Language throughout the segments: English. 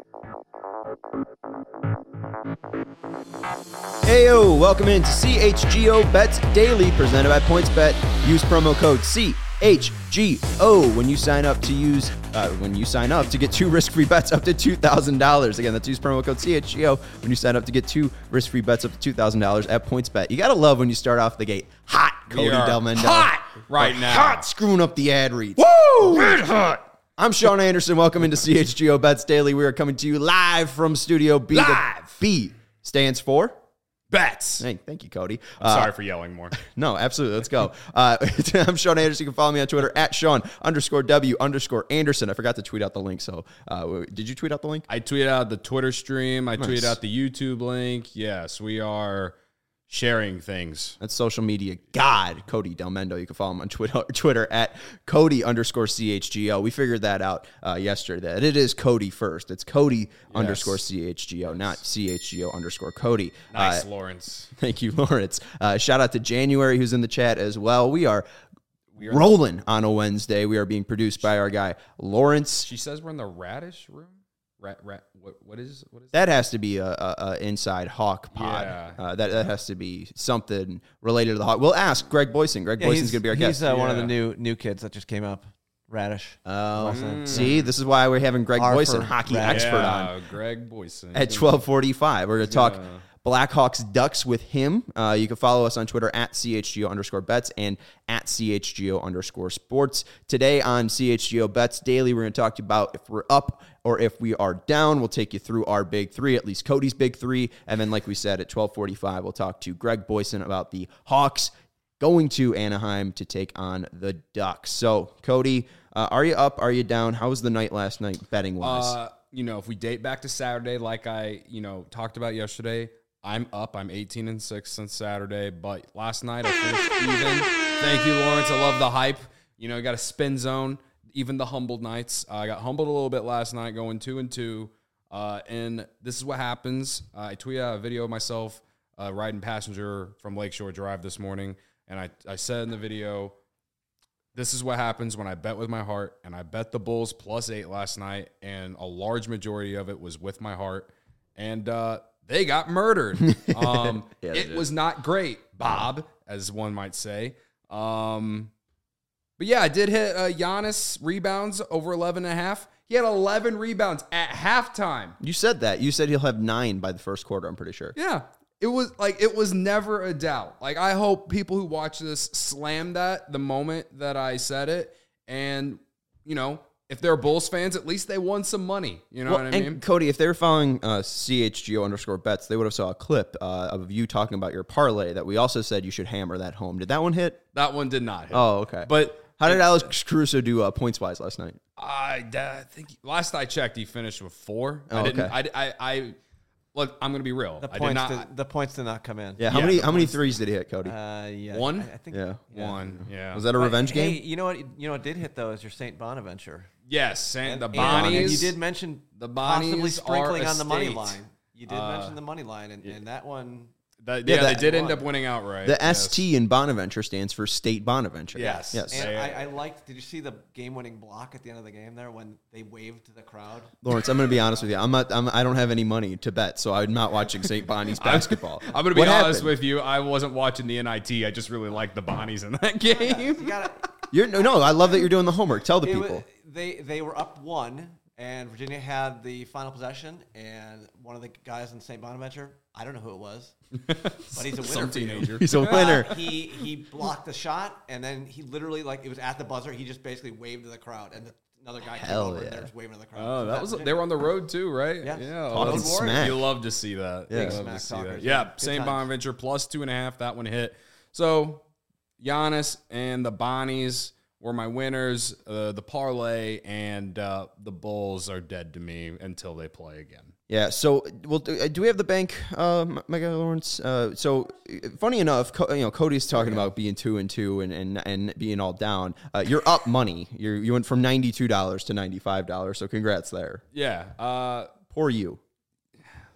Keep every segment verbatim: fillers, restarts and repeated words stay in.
Heyo, welcome into C H G O Bets Daily, presented by PointsBet. Use promo code C H G O when you sign up to use uh, when you sign up to get two risk-free bets up to two thousand dollars. Again, that's use promo code C H G O when you sign up to get two risk-free bets up to two thousand dollars at PointsBet. You gotta love when you start off the gate hot, Cody Del Mendo. Hot right like now. Hot, screwing up the ad reads. Woo! Red hot. I'm Sean Anderson. Welcome into C H G O Bets Daily. We are coming to you live from Studio B. Live. The B stands for Bets. Hey, thank you, Cody. I'm Uh, sorry for yelling more. No, absolutely. Let's go. Uh, I'm Sean Anderson. You can follow me on Twitter at Sean underscore W underscore Anderson. I forgot to tweet out the link. So uh, did you tweet out the link? I tweeted out the Twitter stream. I Nice. tweeted out the YouTube link. Yes, we are sharing things. That's social media god, Cody Del Mendo. You can follow him on Twitter, Twitter at Cody underscore C H G O. We figured that out uh, yesterday. That it is Cody first. It's Cody underscore C H G O, not C H G O underscore Cody. Nice, Uh, Lawrence. Thank you, Lawrence. Uh, shout out to January, who's in the chat as well. We are We are rolling on a Wednesday. We are being produced by our guy, Lawrence. She says we're in the radish room. Rat, rat. What? What is? What is? That has to be a, a, a inside Hawk pod. Yeah. Uh, that, that has to be something related to the Hawk. We'll ask Greg Boyson. Greg Yeah, Boyson's he's going to be our he's guest. uh, one of the Yeah. new new kids that just came up. Radish. Oh, Mm. see, this is why we're having Greg R Boyson, for hockey Radish. expert, yeah, on Greg Boyson at twelve forty-five. We're going to talk Yeah. Blackhawks Ducks with him. Uh, you can follow us on Twitter at C H G O underscore bets and at C H G O underscore sports. Today on C H G O Bets Daily, we're going to talk to you about if we're up or if we are down. We'll take you through our big three, at least Cody's big three. And then, like we said, at twelve forty-five, we'll talk to Greg Boyson about the Hawks going to Anaheim to take on the Ducks. So, Cody, uh, are you up? Are you down? How was the night last night betting wise? Uh, you know, if we date back to Saturday, like I, you know, talked about yesterday, I'm up. I'm eighteen and six since Saturday, but last night I finished even. Thank you, Lawrence. I love the hype. You know, you got a spin zone. Even the humbled nights. Uh, I got humbled a little bit last night, going two and two. Uh, and this is what happens. Uh, I tweeted out a video of myself uh, riding passenger from Lakeshore Drive this morning, and I, I said in the video, this is what happens when I bet with my heart, and I bet the Bulls plus eight last night, and a large majority of it was with my heart, and uh, they got murdered. Um, Yeah, they it did. was not great, Bob, as one might say. Um, but yeah, I did hit uh, Giannis rebounds over eleven and a half. He had eleven rebounds at halftime. You said that. You said he'll have nine by the first quarter, I'm pretty sure. Yeah. It was like, it was never a doubt. Like, I hope people who watch this slam that the moment that I said it. And, you know, if they're Bulls fans, at least they won some money. You know Well, what I and mean? Cody, if they were following uh, C H G O underscore bets, they would have saw a clip uh, of you talking about your parlay that we also said you should hammer that home. Did that one hit? That one did not hit. Oh, okay. But How did Alex Caruso do uh, points-wise last night? I, I think last I checked, he finished with four. Oh, I didn't, okay. I, I, I, look, I'm going to be real. The I did points not. did, the points did not come in. Yeah, how Yeah, many the how many points- threes did he hit, Cody? Uh, yeah. One? I, I think Yeah. One. Yeah. Was that a But, revenge hey, game? you know what? You know what did hit though is your Saint Bonaventure. Yes. And the And Bonnies. You did mention the possibly Bonnies sprinkling are a on the money state. line. You did Uh, mention the money line, and, and that one. That, Yeah, yeah, that- they did end won. up winning outright. The yes. S T in Bonaventure stands for State Bonaventure. Yes. Yes. And They- I, I liked. Did you see the game-winning block at the end of the game there when they waved to the crowd? Lawrence, I'm going to be honest with you. I'm not. I'm, I don't have any money to bet, so I'm not watching Saint Bonnie's basketball. I'm going to be What honest happened? with you. I wasn't watching the N I T. I just really liked the Bonnies in that game. You got You're no, no. I love that you're doing the homework. Tell the it. people. They they were up one, and Virginia had the final possession, and one of the guys in Saint Bonaventure, I don't know who it was, but he's a winner. Some for you. teenager. He's a winner. Uh, he he blocked the shot, and then he literally, like, it was at the buzzer. He just basically waved to the crowd, and the, another guy Hell came over, yeah. and they're just waving to the crowd. Oh, So that was Virginia. they were on the road too, right? Yes. Yeah, Talking Road Warriors. smack. You love to see that. Yeah. You love Smack to see talkers, that. yeah. Yeah, Good Saint times. Bonaventure plus two and a half. That one hit. So Giannis and the Bonnies were my winners. Uh, the parlay and uh, the Bulls are dead to me until they play again. Yeah. So, well, do, do we have the bank, um, Mega Lawrence? Uh, so, uh, funny enough, Co- you know, Cody's talking about being two and two and and, and being all down. Uh, you're up money. You you went from ninety two dollars to ninety five dollars. So, congrats there. Yeah. Uh, Poor you.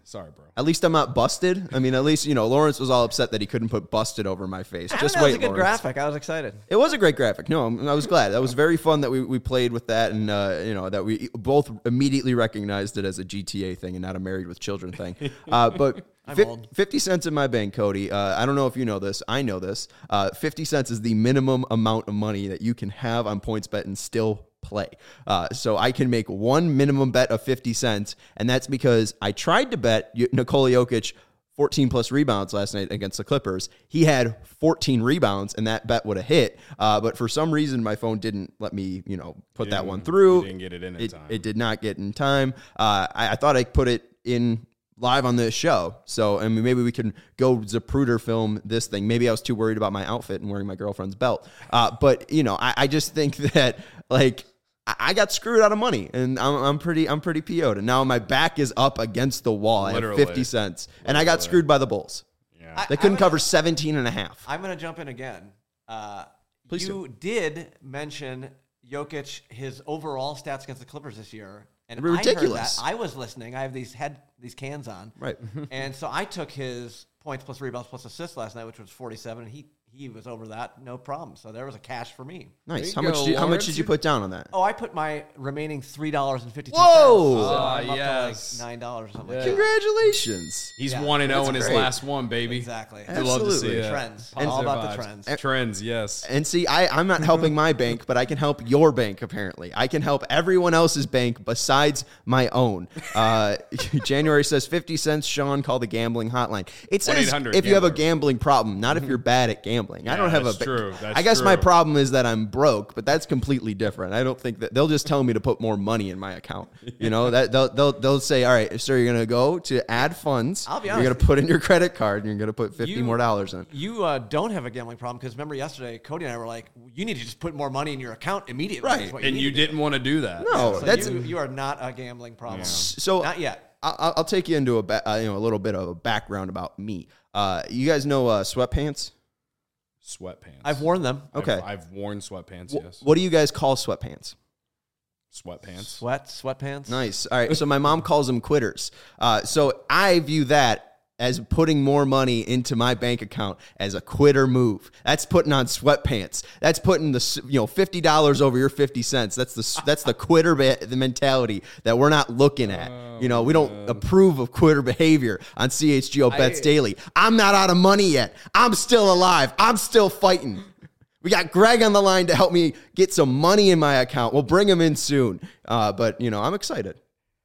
Sorry, bro. At least I'm not busted. I mean, at least, you know, Lawrence was all upset that he couldn't put busted over my face. I Just know, wait, it was a good Lawrence. graphic. I was excited. It was a great graphic. No, I was glad. That was very fun that we, we played with that, and uh, you know, that we both immediately recognized it as a G T A thing and not a Married with Children thing. Uh, but I'm fif- old. fifty cents in my bank, Cody. Uh, I don't know if you know this. I know this. Uh, fifty cents is the minimum amount of money that you can have on PointsBet and still play. Uh, so I can make one minimum bet of fifty cents, and that's because I tried to bet Nikola Jokic fourteen plus rebounds last night against the Clippers. He had fourteen rebounds, and that bet would have hit. Uh, but for some reason, my phone didn't let me, you know, put that one through. You didn't get it in in it, time. It did not get in time. Uh, I, I thought I put it in live on this show. So, I mean, maybe we can go Zapruder film this thing. Maybe I was too worried about my outfit and wearing my girlfriend's belt. Uh, but, you know, I, I just think that, like, I got screwed out of money, and I'm, I'm pretty I'm pretty P O'd. And now my back is up against the wall at Literally. fifty cents. And I got screwed by the Bulls. Yeah. I- They couldn't I'm cover gonna- seventeen and a half. I'm going to jump in again. Uh, Please you did mention Jokic, his overall stats against the Clippers this year. And They were I heard ridiculous. that. I was listening. I have these head these cans on. Right. And so I took his points plus rebounds plus assists last night, which was forty-seven, and he he was over that, no problem. So there was a cash for me. Nice. There How you much, go, did you, how much Lawrence. did you put down on that? Oh, I put my remaining three dollars and fifty two Whoa! cents. So Ah, I'm up yes. to like nine dollars or something. Yeah. Like that. Congratulations. He's Yeah, one and zero that's in his great. last one, baby. Exactly. We love to see Absolutely. it. Trends. Positive All about the vibes. trends. Trends, yes. And see, I, I'm not helping my bank, but I can help your bank, apparently. I can help everyone else's bank besides my own. Uh, January says fifty cents, Sean, call the gambling hotline. It says one eight hundred if you have a gambler. gambling problem, not if you're bad at gambling. I Yeah, don't have that's a. true. That's I guess my true. problem is that I'm broke, but that's completely different. I don't think that they'll just tell me to put more money in my account. You know, that they'll, they'll, they'll say, all right, sir, you're going to go to add funds. I'll be You're going honest. to put in your credit card and you're going to put fifty You- more dollars in. You uh, don't have a gambling problem because remember yesterday, Cody and I were like, you need to just put more money in your account immediately. Right. is what And need you to do. didn't want to do that. No, So that's you, you are not a gambling problem. so. Not yet. I'll, I'll take you into a ba- uh, you know a little bit of a background about me. Uh, you guys know uh, sweatpants? Sweatpants. I've worn them. Okay. I've, I've worn sweatpants, Wh- yes. What do you guys call sweatpants? Sweatpants. Sweat, sweatpants. Nice. All right. So my mom calls them quitters. Uh, so I view that as putting more money into my bank account as a quitter move. That's putting on sweatpants. That's putting the s- you know fifty dollars over your fifty cents. That's the s- that's the quitter be- the mentality that we're not looking at. You know, we don't approve of quitter behavior on C H G O Bets I- Daily. I'm not out of money yet. I'm still alive. I'm still fighting. We got Greg on the line to help me get some money in my account. We'll bring him in soon. Uh, but you know, I'm excited.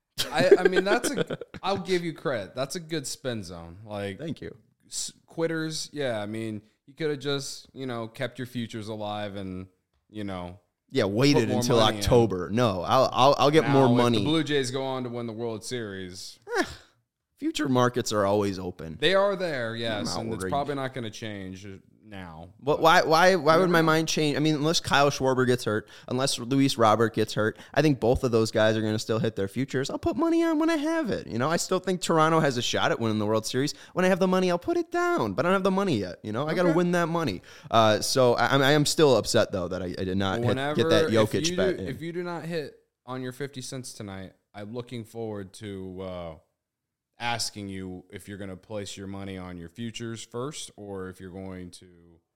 I, I mean, that's a. I'll give you credit. That's a good spin zone. Like Thank you. s- quitters. Yeah, I mean, you could have just you know kept your futures alive and you know Yeah, waited more until money in. October. No, I'll I'll, I'll get now more if money. the Blue Jays go on to win the World Series. Future markets are always open. They are there, yes, not and it's worried. probably not going to change now. What? Why? Why? Why would my mind change? I mean, unless Kyle Schwarber gets hurt, unless Luis Robert gets hurt, I think both of those guys are going to still hit their futures. I'll put money on when I have it. You know, I still think Toronto has a shot at winning the World Series. When I have the money, I'll put it down. But I don't have the money yet. You know, I got to win that money. Uh, so I, I am still upset though that I, I did not hit, Whenever get that if Jokic you bet do, in. if you do not hit on your fifty cents tonight, I'm looking forward to uh, asking you if you're going to place your money on your futures first, or if you're going to,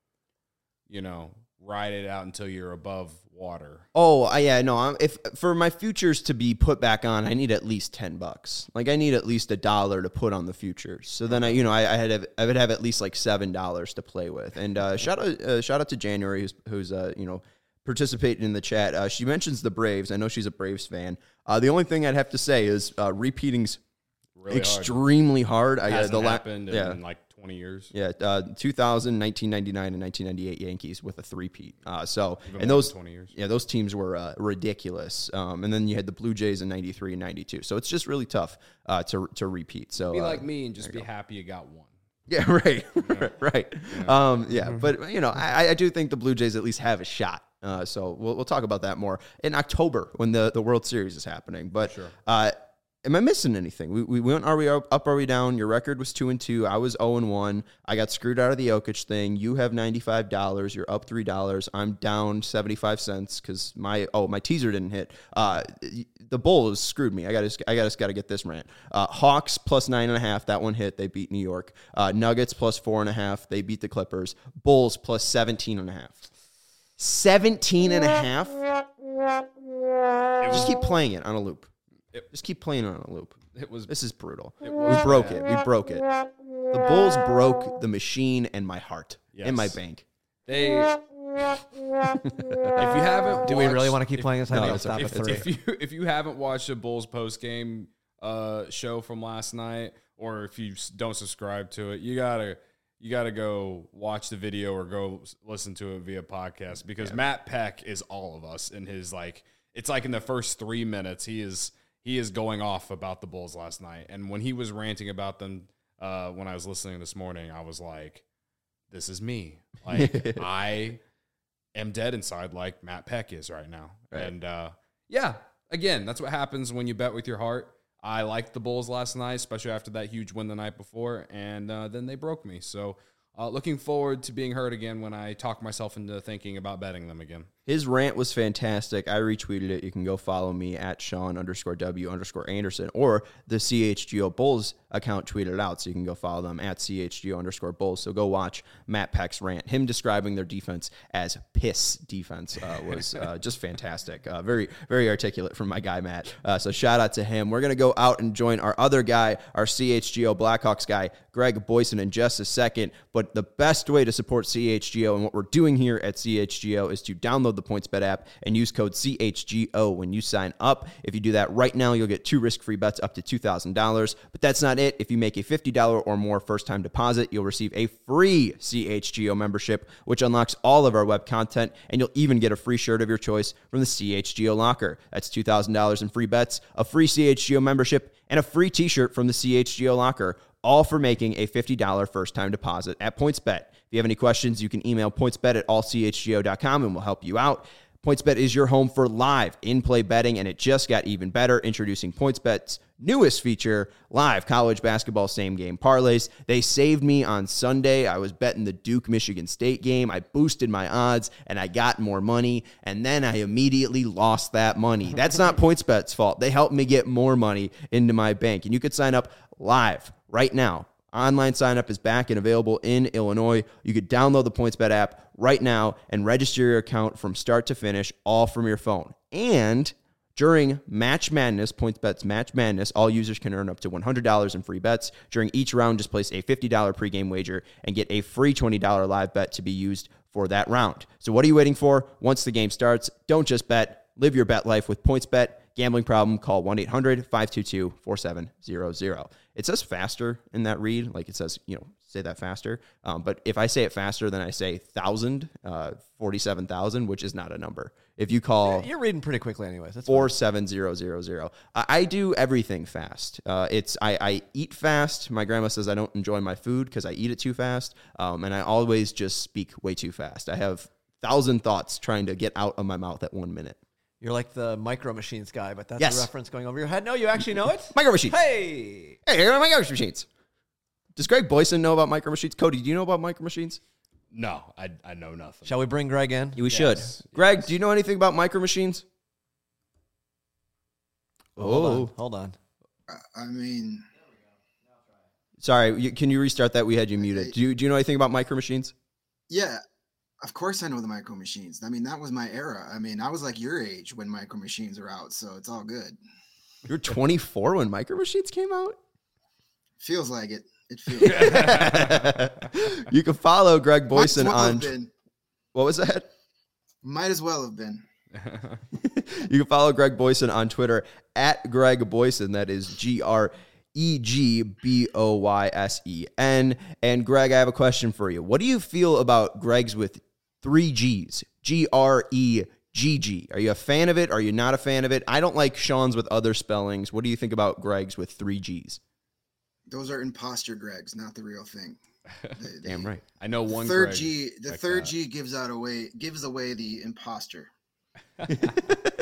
you know, ride it out until you're above water. Oh, I- yeah, no. I'm, if for my futures to be put back on, I need at least ten bucks. Like I need at least a dollar to put on the futures. So then I, you know, I, I had I would have at least like seven dollars to play with. And uh, shout out, uh, shout out to January, who's who's uh, you know participating in the chat. Uh, she mentions the Braves. I know she's a Braves fan. Uh, the only thing I'd have to say is uh, repeating's Really extremely hard. hard. I, uh, Hasn't the la- happened yeah. in like twenty years. Yeah, uh, two thousand, nineteen ninety-nine, and nineteen ninety-eight Yankees with a three-peat. Uh, so, Even and more those than twenty years. yeah, those teams were uh, ridiculous. Um, and then you had the Blue Jays in ninety-three and ninety-two. So it's just really tough uh, to to repeat. So Be uh, like me and just be happy you got one. yeah, right, right. Yeah, um, yeah. but you know, I, I do think the Blue Jays at least have a shot. Uh, so we'll we'll talk about that more in October when the the World Series is happening. But Sure. uh, am I missing anything? We, we went, are we up, up, are we down? Your record was two and two. I was zero and one. I got screwed out of the Jokic thing. You have ninety-five dollars. You're up three dollars. I'm down seventy-five cents because my, oh, my teaser didn't hit. Uh, the Bulls screwed me. I got to, I got to get this rant. Uh, Hawks plus nine and a half. That one hit. They beat New York. Uh, Nuggets plus four and a half. They beat the Clippers. Bulls plus seventeen and a half. seventeen and a half. Just keep playing it on a loop. It, Just keep playing it on a loop. It was. This is brutal. It We was broke bad. it. We broke it. The Bulls broke the machine and my heart Yes. in my bank. They. If you haven't, Do we really watched- want to keep if- playing this? I No, think I'll it's stop okay. at It's three. If you if you haven't watched the Bulls post game uh, show from last night, or if you s- don't subscribe to it, you gotta you gotta go watch the video or go s- listen to it via podcast because Matt Peck is all of us in his like. It's like in the first three minutes he is he is going off about the Bulls last night, and when he was ranting about them uh, when I was listening this morning, I was like, "This is me." Like I. am dead inside like Matt Peck is right now. Right. And uh, yeah, again, that's what happens when you bet with your heart. I liked the Bulls last night, especially after that huge win the night before, and uh, then they broke me. So uh, looking forward to being heard again when I talk myself into thinking about betting them again. His rant was fantastic. I retweeted it. You can go follow me at Sean underscore W underscore Anderson, or the C H G O Bulls account tweeted it out. So you can go follow them at C H G O underscore Bulls. So go watch Matt Peck's rant. Him describing their defense as piss defense uh, was uh, just fantastic. Uh, very, very articulate from my guy, Matt. Uh, so shout out to him. We're going to go out and join our other guy, our C H G O Blackhawks guy, Greg Boyson, in just a second. But the best way to support C H G O and what we're doing here at C H G O is to download the PointsBet app and use code C H G O when you sign up. If you do that right now, you'll get two risk-free bets up to two thousand dollars. But that's not it. If you make a fifty dollars or more first-time deposit, you'll receive a free C H G O membership, which unlocks all of our web content, and you'll even get a free shirt of your choice from the C H G O locker. That's two thousand dollars in free bets, a free C H G O membership, and a free t-shirt from the C H G O locker, all for making a fifty dollars first-time deposit at PointsBet. If you have any questions, you can email pointsbet at all c h g o dot com and we'll help you out. PointsBet is your home for live in-play betting, and it just got even better, introducing PointsBet's newest feature, live college basketball same-game parlays. They saved me on Sunday. I was betting the Duke-Michigan State game. I boosted my odds, and I got more money, and then I immediately lost that money. That's not PointsBet's fault. They helped me get more money into my bank, and you could sign up live right now. Online sign-up is back and available in Illinois. You could download the PointsBet app right now and register your account from start to finish, all from your phone. And during Match Madness, PointsBet's Match Madness, all users can earn up to one hundred dollars in free bets. During each round, just place a fifty dollars pregame wager and get a free twenty dollars live bet to be used for that round. So what are you waiting for? Once the game starts, don't just bet. Live your bet life with PointsBet. Gambling problem, call one eight hundred five two two four seven zero zero. It says faster in that read, like it says, you know, say that faster. Um, but if I say it faster, then I say thousand, uh, forty-seven thousand, which is not a number. If you call You're reading pretty quickly, anyways. That's four fine. seven zero zero zero, I, I do everything fast. Uh, it's I, I eat fast. My grandma says I don't enjoy my food because I eat it too fast, um, and I always just speak way too fast. I have thousand thoughts trying to get out of my mouth at one minute. You're like the Micro Machines guy, but that's Yes. a reference going over your head. No, you actually know it? Micro Machines. Hey! Hey, here are Micro Machines. Does Greg Boyson know about Micro Machines? Cody, do you know about Micro Machines? No, I, I know nothing. Shall we bring Greg in? We Yes, should. yes. Greg, do you know anything about Micro Machines? Hold Oh, on. Hold on. I- I mean, sorry. You, can you restart that? We had you muted. Do you do you know anything about Micro Machines? yeah, of course I know the Micro Machines. I mean, that was my era. I mean, I was like your age when Micro Machines were out, so it's all good. You were twenty-four when Micro Machines came out. Feels like it. It feels like it. You can follow Greg Might as Boyson well on. have been. What was that? Might as well have been. You can follow Greg Boyson on Twitter at Greg Boyson. That is G R E G B O Y S E N. And Greg, I have a question for you. What do you feel about Greg's with three G's? G R E G G. Are you a fan of it? Are you not a fan of it? I don't like Sean's with other spellings. What do you think about Greg's with three G's? Those are imposter Gregs, not the real thing. They- Damn they- right. I know one Third Greg G, the like third that. G gives out away gives away the imposter.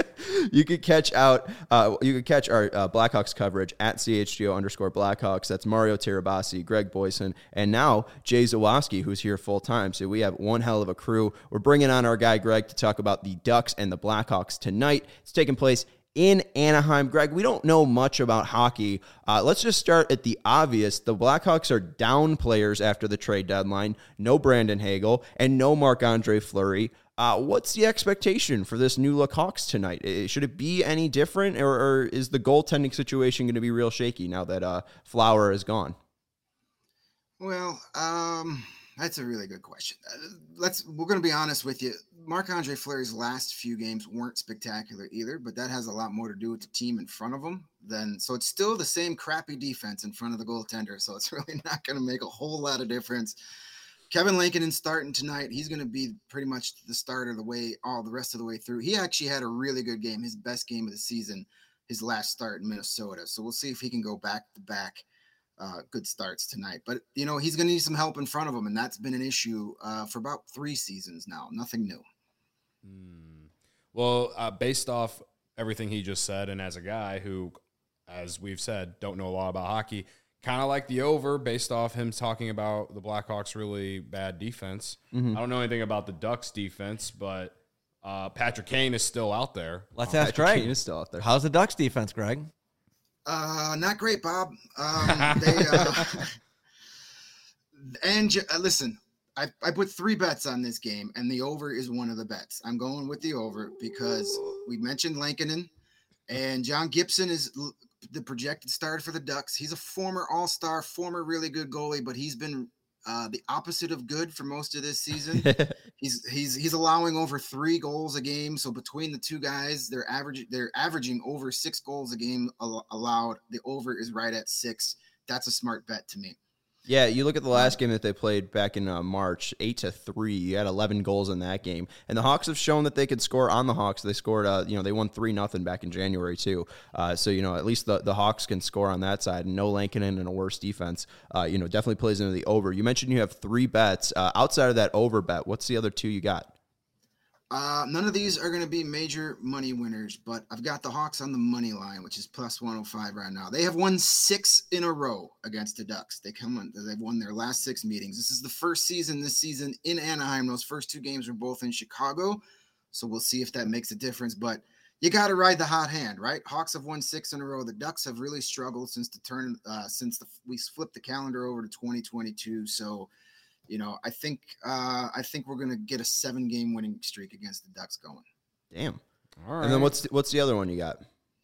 You could catch out. Uh, you could catch our uh, Blackhawks coverage at C H G O underscore Blackhawks. That's Mario Tirabassi, Greg Boyson, and now Jay Zawoski, who's here full time. So we have one hell of a crew. We're bringing on our guy Greg to talk about the Ducks and the Blackhawks tonight. It's taking place in Anaheim. Greg, we don't know much about hockey. Uh, let's just start at the obvious. The Blackhawks are down players after the trade deadline. No Brandon Hagel and no Marc-Andre Fleury. Uh, what's the expectation for this new look Hawks tonight? Should it be any different, or, or is the goaltending situation going to be real shaky now that uh, Flower is gone? Well, um, that's a really good question. Uh, let's we're going to be honest with you. Marc-Andre Fleury's last few games weren't spectacular either, but that has a lot more to do with the team in front of him than so it's still the same crappy defense in front of the goaltender, so it's really not going to make a whole lot of difference. Kevin Lankinen starting tonight. He's going to be pretty much the starter the way all the rest of the way through. He actually had a really good game, his best game of the season, his last start in Minnesota. So we'll see if he can go back to back uh, good starts tonight. But, you know, he's going to need some help in front of him, and that's been an issue uh, for about three seasons now. Nothing new. Hmm. Well, uh, based off everything he just said, and as a guy who, as we've said, don't know a lot about hockey, kind of like the over based off him talking about the Blackhawks' really bad defense. Mm-hmm. I don't know anything about the Ducks' defense, but uh, Patrick Kane is still out there. Let's Oh, ask Patrick Greg. Kane is still out there. How's the Ducks defense, Greg? Uh, not great, Bob. Um, they uh, and uh, listen, I, I put three bets on this game, and the over is one of the bets. I'm going with the over because we mentioned Lankinen, and John Gibson is l- the projected starter for the Ducks. He's a former All-Star, former really good goalie, but he's been uh, the opposite of good for most of this season. he's he's he's allowing over three goals a game. So between the two guys, they're averaging they're averaging over six goals a game al- allowed. The over is right at six. That's a smart bet to me. Yeah, you look at the last game that they played back in uh, March, eight to three. You had eleven goals in that game, and the Hawks have shown that they could score on the Hawks. They scored, uh, you know, they won three nothing back in January too. Uh, so you know, at least the, the Hawks can score on that side. And no Lankinen and a worse defense, uh, you know, definitely plays into the over. You mentioned you have three bets uh, outside of that over bet. What's the other two you got? Uh, none of these are going to be major money winners, but I've got the Hawks on the money line, which is plus one oh five right now. They have won six in a row against the Ducks. They come on, they've won their last six meetings. This is the first season this season in Anaheim. Those first two games were both in Chicago, so we'll see if that makes a difference. But you got to ride the hot hand, right? Hawks have won six in a row. The Ducks have really struggled since the turn, uh, since the, we flipped the calendar over to twenty twenty-two. So. You know, I think uh, I think we're gonna get a seven-game winning streak against the Ducks going. Damn. All right. And then what's the, what's the other one you got?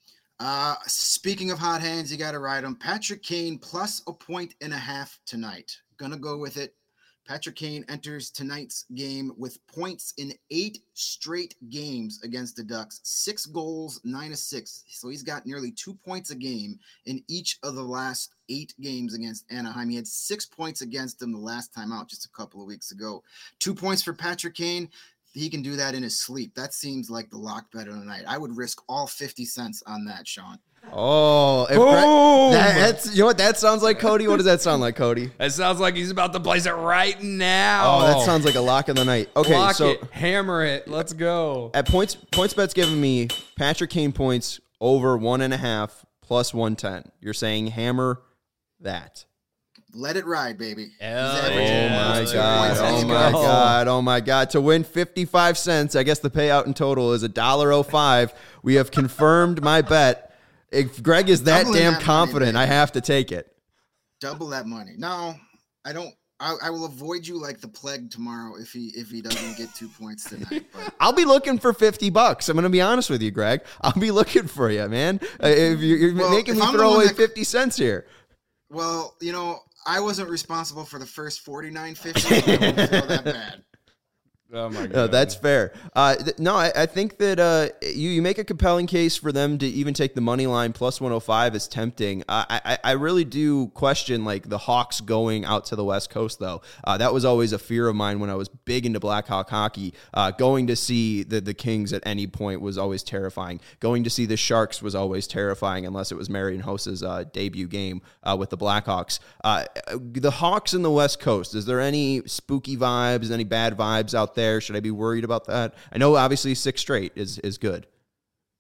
Uh, speaking of hot hands, you got to ride them. Patrick Kane plus a point and a half tonight. Gonna go with it. Patrick Kane enters tonight's game with points in eight straight games against the Ducks. Six goals, nine assists. So he's got nearly two points a game in each of the last eight games against Anaheim. He had six points against them the last time out just a couple of weeks ago. Two points for Patrick Kane. He can do that in his sleep. That seems like the lock bet of the night. I would risk all fifty cents on that, Sean. Oh, if Boom! Greg, that, that's you know what that sounds like, Cody. What does that sound like, Cody? It sounds like he's about to place it right now. Oh, that sounds like a lock of the night. Okay, Lock so it, hammer it. Let's go. at points points bet's giving me Patrick Kane points over one and a half plus one ten. You're saying hammer that. Let it ride, baby. Hell He's yeah. averaging Oh my almost two god! points a Oh game. my go. god! Oh my god! To win fifty-five cents, I guess the payout in total is a dollar oh five. We have confirmed my bet. If Greg is that Doubling damn that money, confident, baby. I have to take it. Double that money. No, I don't. I, I will avoid you like the plague tomorrow if he if he doesn't get two points tonight. But I'll be looking for fifty bucks. I'm going to be honest with you, Greg. I'll be looking for you, man. Uh, if you're, you're Well, making if me I'm the throw one away that- fifty cents here. well, you know, I wasn't responsible for the first forty-nine fifty. So I won't feel that bad. Oh my god. Uh, that's fair. Uh, th- no, I, I think that uh, you, you make a compelling case for them to even take the money line plus one oh five is tempting. Uh, I, I really do question like the Hawks going out to the West Coast, though. Uh, that was always a fear of mine when I was big into Blackhawk hockey. Uh, going to see the, the Kings at any point was always terrifying. Going to see the Sharks was always terrifying unless it was Marion Hossa's uh, debut game uh, with the Blackhawks. Uh, the Hawks in the West Coast, is there any spooky vibes, any bad vibes out there? There. Should I be worried about that? I know obviously six straight is is good.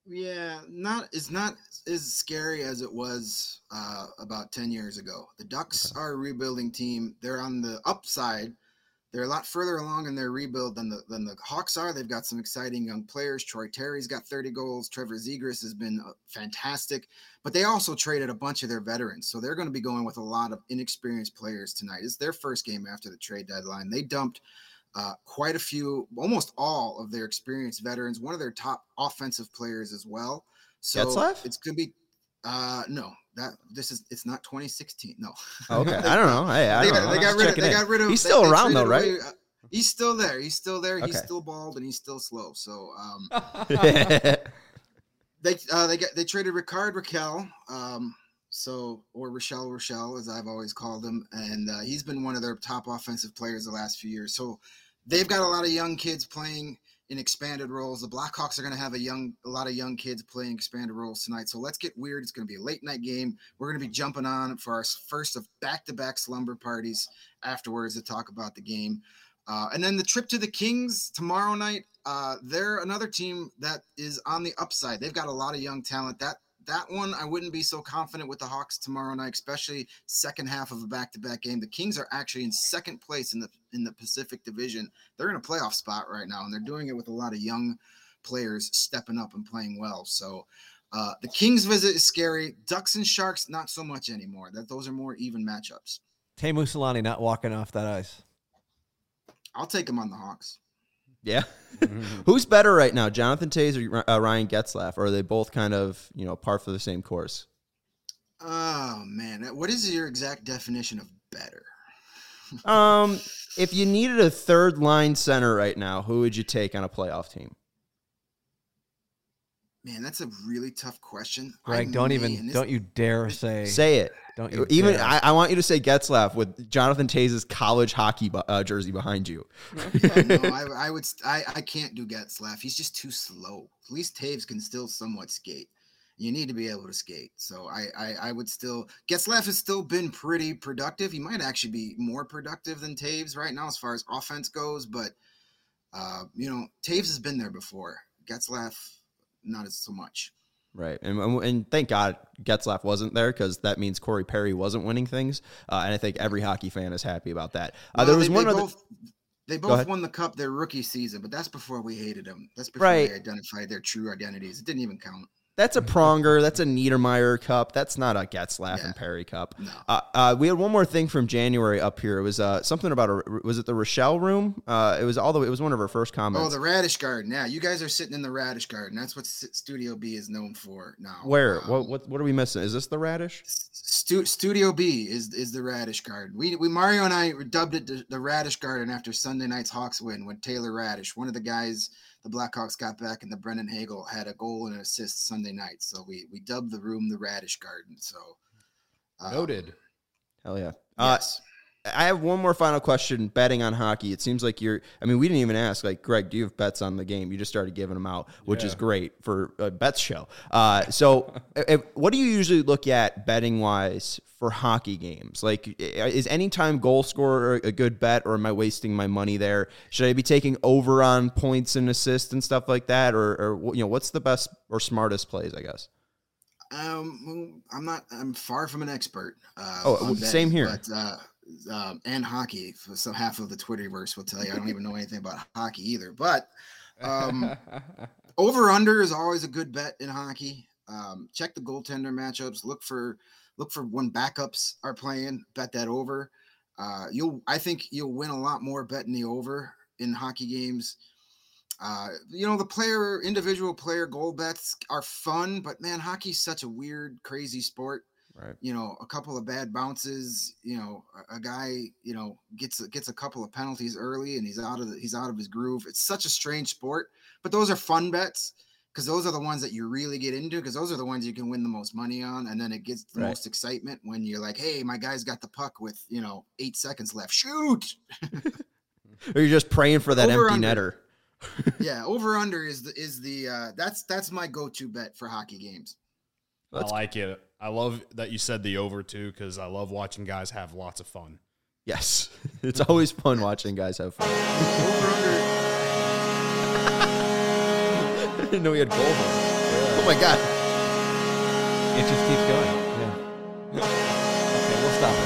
Yeah, not it's not as scary as it was uh, about ten years ago. The Ducks are a rebuilding team. They're on the upside. They're a lot further along in their rebuild than the than the Hawks are. They've got some exciting young players. Troy Terry's got thirty goals. Trevor Zegras has been uh, fantastic. But they also traded a bunch of their veterans. So they're going to be going with a lot of inexperienced players tonight. It's their first game after the trade deadline. They dumped uh, quite a few, almost all of their experienced veterans, one of their top offensive players as well. So Getzlaf? it's going to be uh, – no. That this is it's not twenty sixteen. No. Okay, I don't know. Hey, I they, don't got, know. they got rid of. They in. got rid of. He's they, still they around though, traded right? away, uh, he's still there. He's still there. Okay. He's still bald and he's still slow. So um, Yeah. they uh, they got they traded Ricard Raquel. Um, so or Rochelle Rochelle as I've always called him, and uh, he's been one of their top offensive players the last few years. So they've got a lot of young kids playing in expanded roles. The Blackhawks are going to have a young, a lot of young kids playing expanded roles tonight. So let's get weird. It's going to be a late night game. We're going to be jumping on for our first of back-to-back slumber parties afterwards to talk about the game. Uh, and then the trip to the Kings tomorrow night. Uh, they're another team that is on the upside. They've got a lot of young talent. That that one, I wouldn't be so confident with the Hawks tomorrow night, especially second half of a back-to-back game. The Kings are actually in second place in the in the Pacific Division. They're in a playoff spot right now, and they're doing it with a lot of young players stepping up and playing well. So uh, the Kings visit is scary. Ducks and Sharks, not so much anymore. That those are more even matchups. Teemu Selanne not walking off that ice. I'll take him on the Hawks. Yeah. Who's better right now, Jonathan Toews or uh, Ryan Getzlaf? Or are they both kind of, you know, par for the same course? Oh, man. What is your exact definition of better? Um, if you needed a third line center right now, who would you take on a playoff team? Man, that's a really tough question. Greg, I don't may- even, and this- don't you dare say, Say it. don't you Even dare. I, I want you to say Getzlaf with Jonathan Toews' college hockey bu- uh, jersey behind you. Yeah, no, I, I would. I, I can't do Getzlaf. He's just too slow. At least Taves can still somewhat skate. You need to be able to skate. So I, I, I would still. Getzlaf has still been pretty productive. He might actually be more productive than Taves right now as far as offense goes. But uh, you know, Taves has been there before. Getzlaf, not as so much. Right. And and thank God Getzlaf wasn't there, because that means Corey Perry wasn't winning things. Uh, and I think every hockey fan is happy about that. Uh, Well, there was they, one they other. both, they Go both ahead. won the cup their rookie season, but that's before we hated them. That's before Right. they identified their true identities. It didn't even count. That's a Pronger. That's a Niedermeyer Cup. That's not a Getzlaf Yeah. and Perry Cup. No. Uh, uh, we had one more thing from January up here. It was uh, something about a. Was it the Rochelle room? Uh, it was all the. It was one of our first comments. Oh, the Radish Garden. Yeah, you guys are sitting in the Radish Garden. That's what S- Studio B is known for now. Where? Um, What? What? What are we missing? Is this the Radish? Stu- Studio B is is the Radish Garden. We we Mario and I dubbed it the, the Radish Garden after Sunday night's Hawks win when Taylor Radish, one of the guys the Blackhawks got back in the Brendan Hagel, had a goal and an assist Sunday night. So we we dubbed the room the Radish Garden. So um, Noted. Hell yeah. Uh, Yes. I have one more final question. Betting on hockey. It seems like you're. I mean, we didn't even ask. Like, Greg, do you have bets on the game? You just started giving them out, which is Yeah. great for a bets show. Uh, so, if, what do you usually look at betting wise for hockey games? Like, is anytime goal scorer a good bet, or am I wasting my money there? Should I be taking over on points and assists and stuff like that, or, or you know, what's the best or smartest plays? I guess. Um, well, I'm not. I'm far from an expert. Uh, Oh, on same betting, here. But uh, um, and hockey. So half of the Twitterverse will tell you I don't even know anything about hockey either. But um, over under is always a good bet in hockey. Um, check the goaltender matchups. Look for look for when backups are playing. Bet that over. Uh, you'll. I think you'll win a lot more betting the over in hockey games. Uh, you know, the player, individual player goal bets are fun, but man, hockey's such a weird, crazy sport. Right. You know, a couple of bad bounces, you know, a, a guy, you know, gets gets a couple of penalties early and he's out of the, he's out of his groove. It's such a strange sport, but those are fun bets because those are the ones that you really get into because those are the ones you can win the most money on. And then it gets the Right. most excitement when you're like, hey, my guy's got the puck with, you know, eight seconds left. Shoot. Or you're just praying for that Over empty under. netter. Yeah, over under is the is the uh that's that's my go-to bet for hockey games. I like it. I love that you said the over too, because I love watching guys have lots of fun. Yes. It's always fun watching guys have fun. Over under I didn't know we had goal. Oh my God. It just keeps going. Yeah. Okay, we'll stop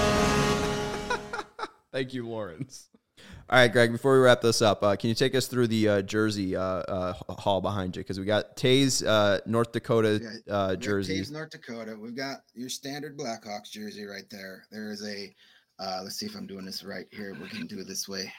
it. Thank you, Lawrence. All right, Greg, before we wrap this up, uh, can you take us through the uh, jersey uh, uh, hall behind you? Because we got Tays, uh, North Dakota uh, jersey. Tays, North Dakota. We've got your standard Blackhawks jersey right there. There is a, uh, let's see if I'm doing this right here. We can do it this way.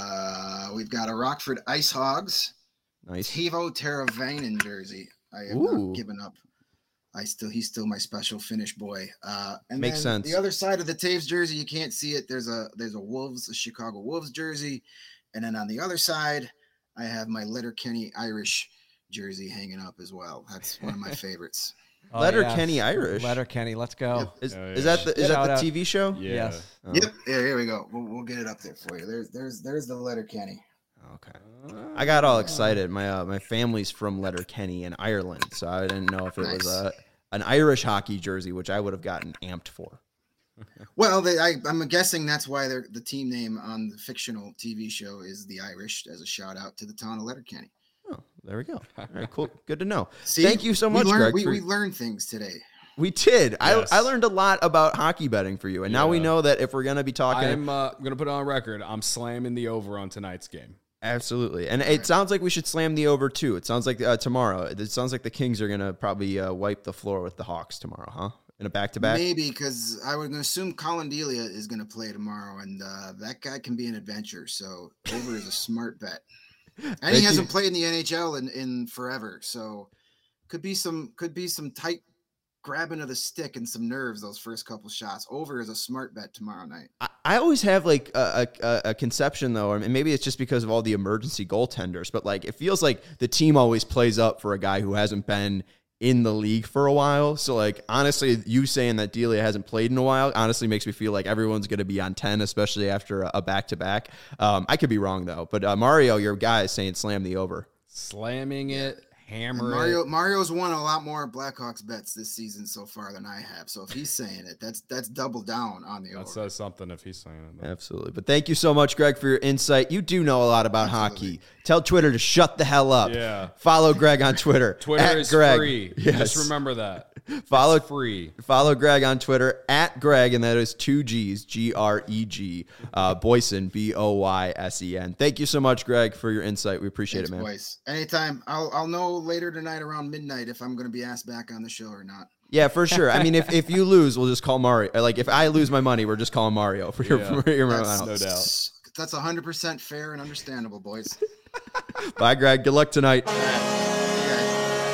Uh, we've got a Rockford Ice Hogs. Nice. Teuvo Teravainen jersey. I have Ooh. not given up. I still, he's still my special Finnish boy. Uh, and Makes then sense. The other side of the Taves jersey, you can't see it. There's a, there's a Wolves, a Chicago Wolves jersey. And then on the other side, I have my Letterkenny Irish jersey hanging up as well. That's one of my favorites. Oh, Letterkenny yes. Irish. Letterkenny, let's go. Is, Oh, is yeah. that the is Shout that the out. T V show? Yeah. Yes. Oh, Yep. Yeah, here we go. We'll, we'll get it up there for you. There's, there's, there's the Letterkenny. Okay. I got all excited. My uh, my family's from Letterkenny in Ireland, so I didn't know if it Nice. was a an Irish hockey jersey, which I would have gotten amped for. Well, they, I, I'm guessing that's why they're, the team name on the fictional T V show is the Irish, as a shout out to the town of Letterkenny. Oh, there we go. All right, cool. Good to know. See, Thank you so we much, learned, Greg. We, for- we learned things today. We did. Yes. I I learned a lot about hockey betting for you, and now we Yeah. know that if we're gonna be talking, I'm uh, going to put it on record. I'm slamming the over on tonight's game. absolutely. And it sounds like we should slam the over too. It sounds like uh, tomorrow. It sounds like the Kings are gonna probably uh, wipe the floor with the Hawks tomorrow, huh? In a back to back. Maybe because I would assume Colin Delia is going to play tomorrow, and uh, that guy can be an adventure. So over is a smart bet, and Thank he you. hasn't played in the N H L in, in forever. So could be some could be some tight grabbing of the stick and some nerves those first couple shots. Over is a smart bet tomorrow night. I, I always have like a, a, a conception though, and maybe it's just because of all the emergency goaltenders, but like it feels like the team always plays up for a guy who hasn't been in the league for a while. So like honestly, you saying that Delia hasn't played in a while honestly makes me feel like everyone's going to be on ten, especially after a back to back. Um, I could be wrong though, but uh, Mario, your guy is saying slam the over. Slamming it, And hammer Mario it. Mario's won a lot more Blackhawks bets this season so far than I have. So if he's saying it, that's that's double down on the That over. says something if he's saying it. Absolutely. But thank you so much, Greg, for your insight. You do know a lot about Absolutely. hockey. Tell Twitter to shut the hell up. Yeah. Follow Greg on Twitter. Twitter at is Greg. free. Yes. Just remember that. Follow It's free. Follow Greg on Twitter at Greg, and that is two G's, G R E G, uh, Boysen, B O Y S E N. Thank you so much, Greg, for your insight. We appreciate Thanks, it, man. boys. Anytime. I'll I'll know later tonight around midnight if I'm going to be asked back on the show or not. Yeah, for sure. I mean, if, if you lose, we'll just call Mario. Like, if I lose my money, we're just calling Mario for your, Yeah. for your That's, amount. no doubt. That's one hundred percent fair and understandable, boys. Bye, Greg. Good luck tonight. All right. You guys.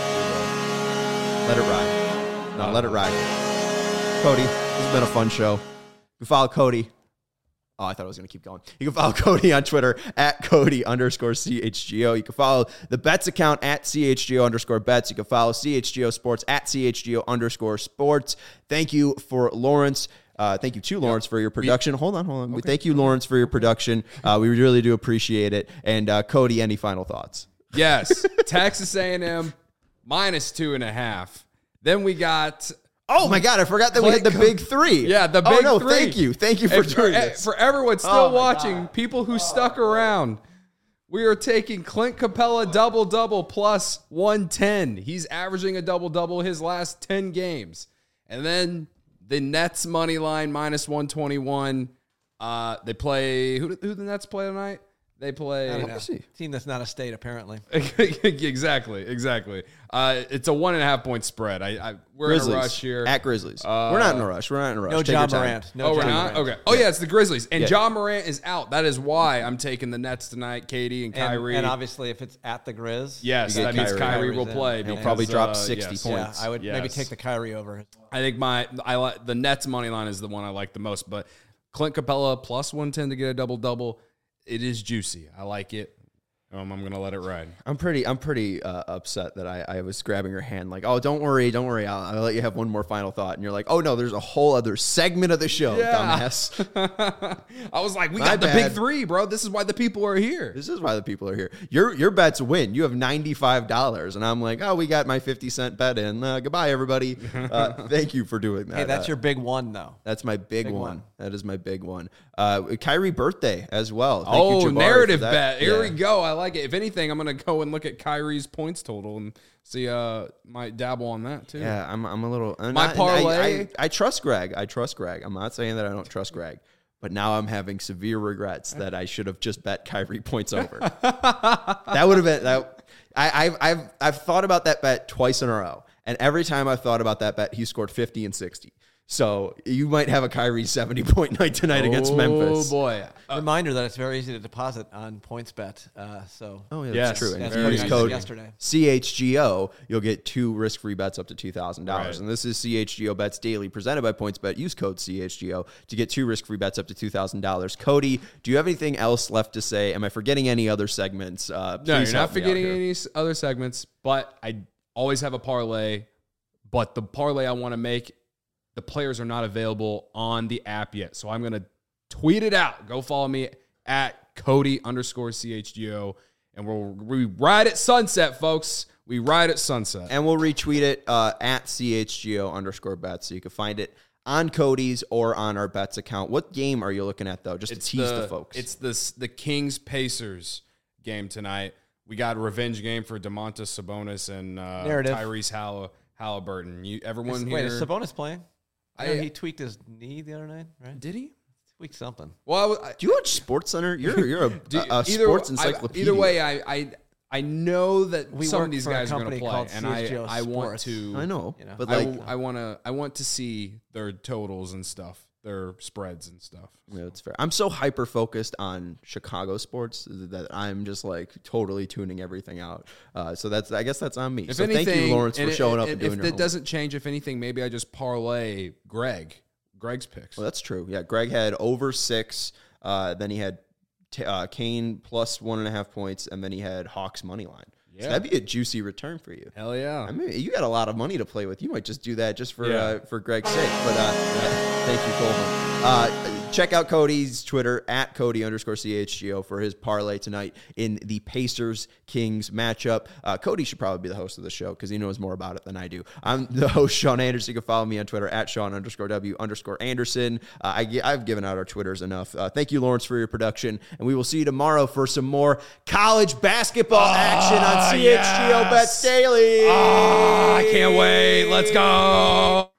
Let it ride. No, let it ride. Cody, this has been a fun show. You can follow Cody. Oh, I thought I was going to keep going. You can follow Cody on Twitter at Cody underscore C H G O. You can follow the Bets account at C H G O underscore Bets. You can follow C H G O Sports at C H G O underscore Sports. Thank you for Lawrence. Uh, thank you to Lawrence for your production. hold on, hold on. Thank you, Lawrence, for your production. Uh, we really do appreciate it. And uh, Cody, any final thoughts? Yes. Texas A and M minus two and a half. Then we got Oh my God, I forgot that we had the big three. Yeah, the Oh, big no, three. thank you. Thank you for And doing for, this. for everyone still Oh my watching, people who stuck around, we are taking Clint Capella double double plus one ten. He's averaging a double double his last ten games. And then the Nets money line minus one twenty-one. Uh, they play who? Who the Nets play tonight? They play. I don't Let know. me see. Team that's not a state, apparently. exactly, exactly. Uh, it's a one and a half point spread. I, I we're Grizzlies. in a rush here. At Grizzlies. Uh, we're not in a rush. We're not in a rush. No Take your John time. Morant. No oh, we're John not? Morant. Okay. Oh, yeah, it's the Grizzlies. And Yeah. John Morant is out. That is why I'm taking the Nets tonight, Katie and And, Kyrie. and obviously, if it's at the Grizz, yes, You that get means Kyrie. Kyrie will Kyrie's in. play. He'll because, probably drop uh, sixty yes. points. yeah, I would maybe Yes. take the Kyrie over. I think my I like the Nets money line is the one I like the most. But Clint Capella plus one ten to get a double double. It is juicy. I like it. Um, I'm gonna let it ride. I'm pretty. I'm pretty uh, upset that I, I was grabbing your hand, like, oh, don't worry, don't worry. I'll, I'll let you have one more final thought. And you're like, oh no, there's a whole other segment of the show, dumbass. I was like, we My got the bad. big three, bro. This is why the people are here. This is why the people are here. Your your bets win. You have ninety-five dollars, and I'm like, oh, we got my fifty cent bet in. Uh, goodbye, everybody. Uh, thank you for doing that. Hey, that's Uh, your big one, though. That's my big, Big one. one. That is my big one. Uh, Kyrie birthday as well. Thank oh, you, Jabari, narrative for that. bet. Here Yeah. we go. I like it. If anything, I'm gonna go and look at Kyrie's points total and see. Uh, might dabble on that too. Yeah, I'm. I'm a little. I'm My not- parlay- I, I, I trust Greg. I trust Greg. I'm not saying that I don't trust Greg, but now I'm having severe regrets that I should have just bet Kyrie points over. That would have been that. I, I've I've I've thought about that bet twice in a row, and every time I've thought about that bet, he scored fifty and sixty. So you might have a Kyrie seventy point night tonight against Memphis. Oh boy. Reminder that it's very easy to deposit on PointsBet. Uh, so Oh, yeah, Yes. that's true. And that's if you what use I code did yesterday. C H G O, you'll get two risk-free bets up to two thousand dollars. Right. And this is C H G O Bets Daily, presented by PointsBet. Use code C H G O to get two risk-free bets up to two thousand dollars. Cody, do you have anything else left to say? Am I forgetting any other segments? Uh, No, please you're help not me out forgetting here. any s- other segments, but I always have a parlay. But the parlay I want to make, the players are not available on the app yet. So I'm going to tweet it out. Go follow me at Cody underscore C H G O. And we'll we ride at sunset, folks. We ride at sunset. And we'll retweet it uh, at C H G O underscore bets. So you can find it on Cody's or on our bets account. What game are you looking at, though? Just to tease the, folks. It's the, the Kings Pacers game tonight. We got a revenge game for DeMontis Sabonis and uh, Narrative. Tyrese Hall- Halliburton. You, everyone Wait, here. is Sabonis playing? I know I- he tweaked his knee the other night, right? Did he? Tweaked something. Well, I, Do you watch Sports Center? You're you're a, Do- a, a either- sports I- encyclopedia. either way, I, I I know that We some work of these for a guys are going to company play, called and C H G O I I want Sports. to. I know, You know. but I, like, w- I want to. I want to see their totals and stuff, their spreads and stuff. yeah, it's fair. I'm so hyper focused on Chicago sports that I'm just like totally tuning everything out. Uh, so that's I guess that's on me. If so anything, thank you, Lawrence, for and showing it, up and and doing if your it homework. doesn't change, if anything, maybe I just parlay Greg, Greg's picks. Well, that's true. Yeah, Greg had over six. Uh, then he had t- uh, Kane plus one and a half points, and then he had Hawks money line. So Yeah. that'd be a juicy return for you. Hell yeah! I mean, you got a lot of money to play with. You might just do that just for Yeah. uh, for Greg's sake. But uh, thank you, Coleman. Uh, check out Cody's Twitter at Cody underscore C H G O for his parlay tonight in the Pacers Kings matchup. Uh, Cody should probably be the host of the show because he knows more about it than I do. I'm the host, Sean Anderson. You can follow me on Twitter at Sean underscore W underscore Anderson. Uh, I, I've given out our Twitters enough. Uh, thank you, Lawrence, for your production. And we will see you tomorrow for some more college basketball action on C H G O yes. Bets Daily. Ah, I can't wait. Let's go.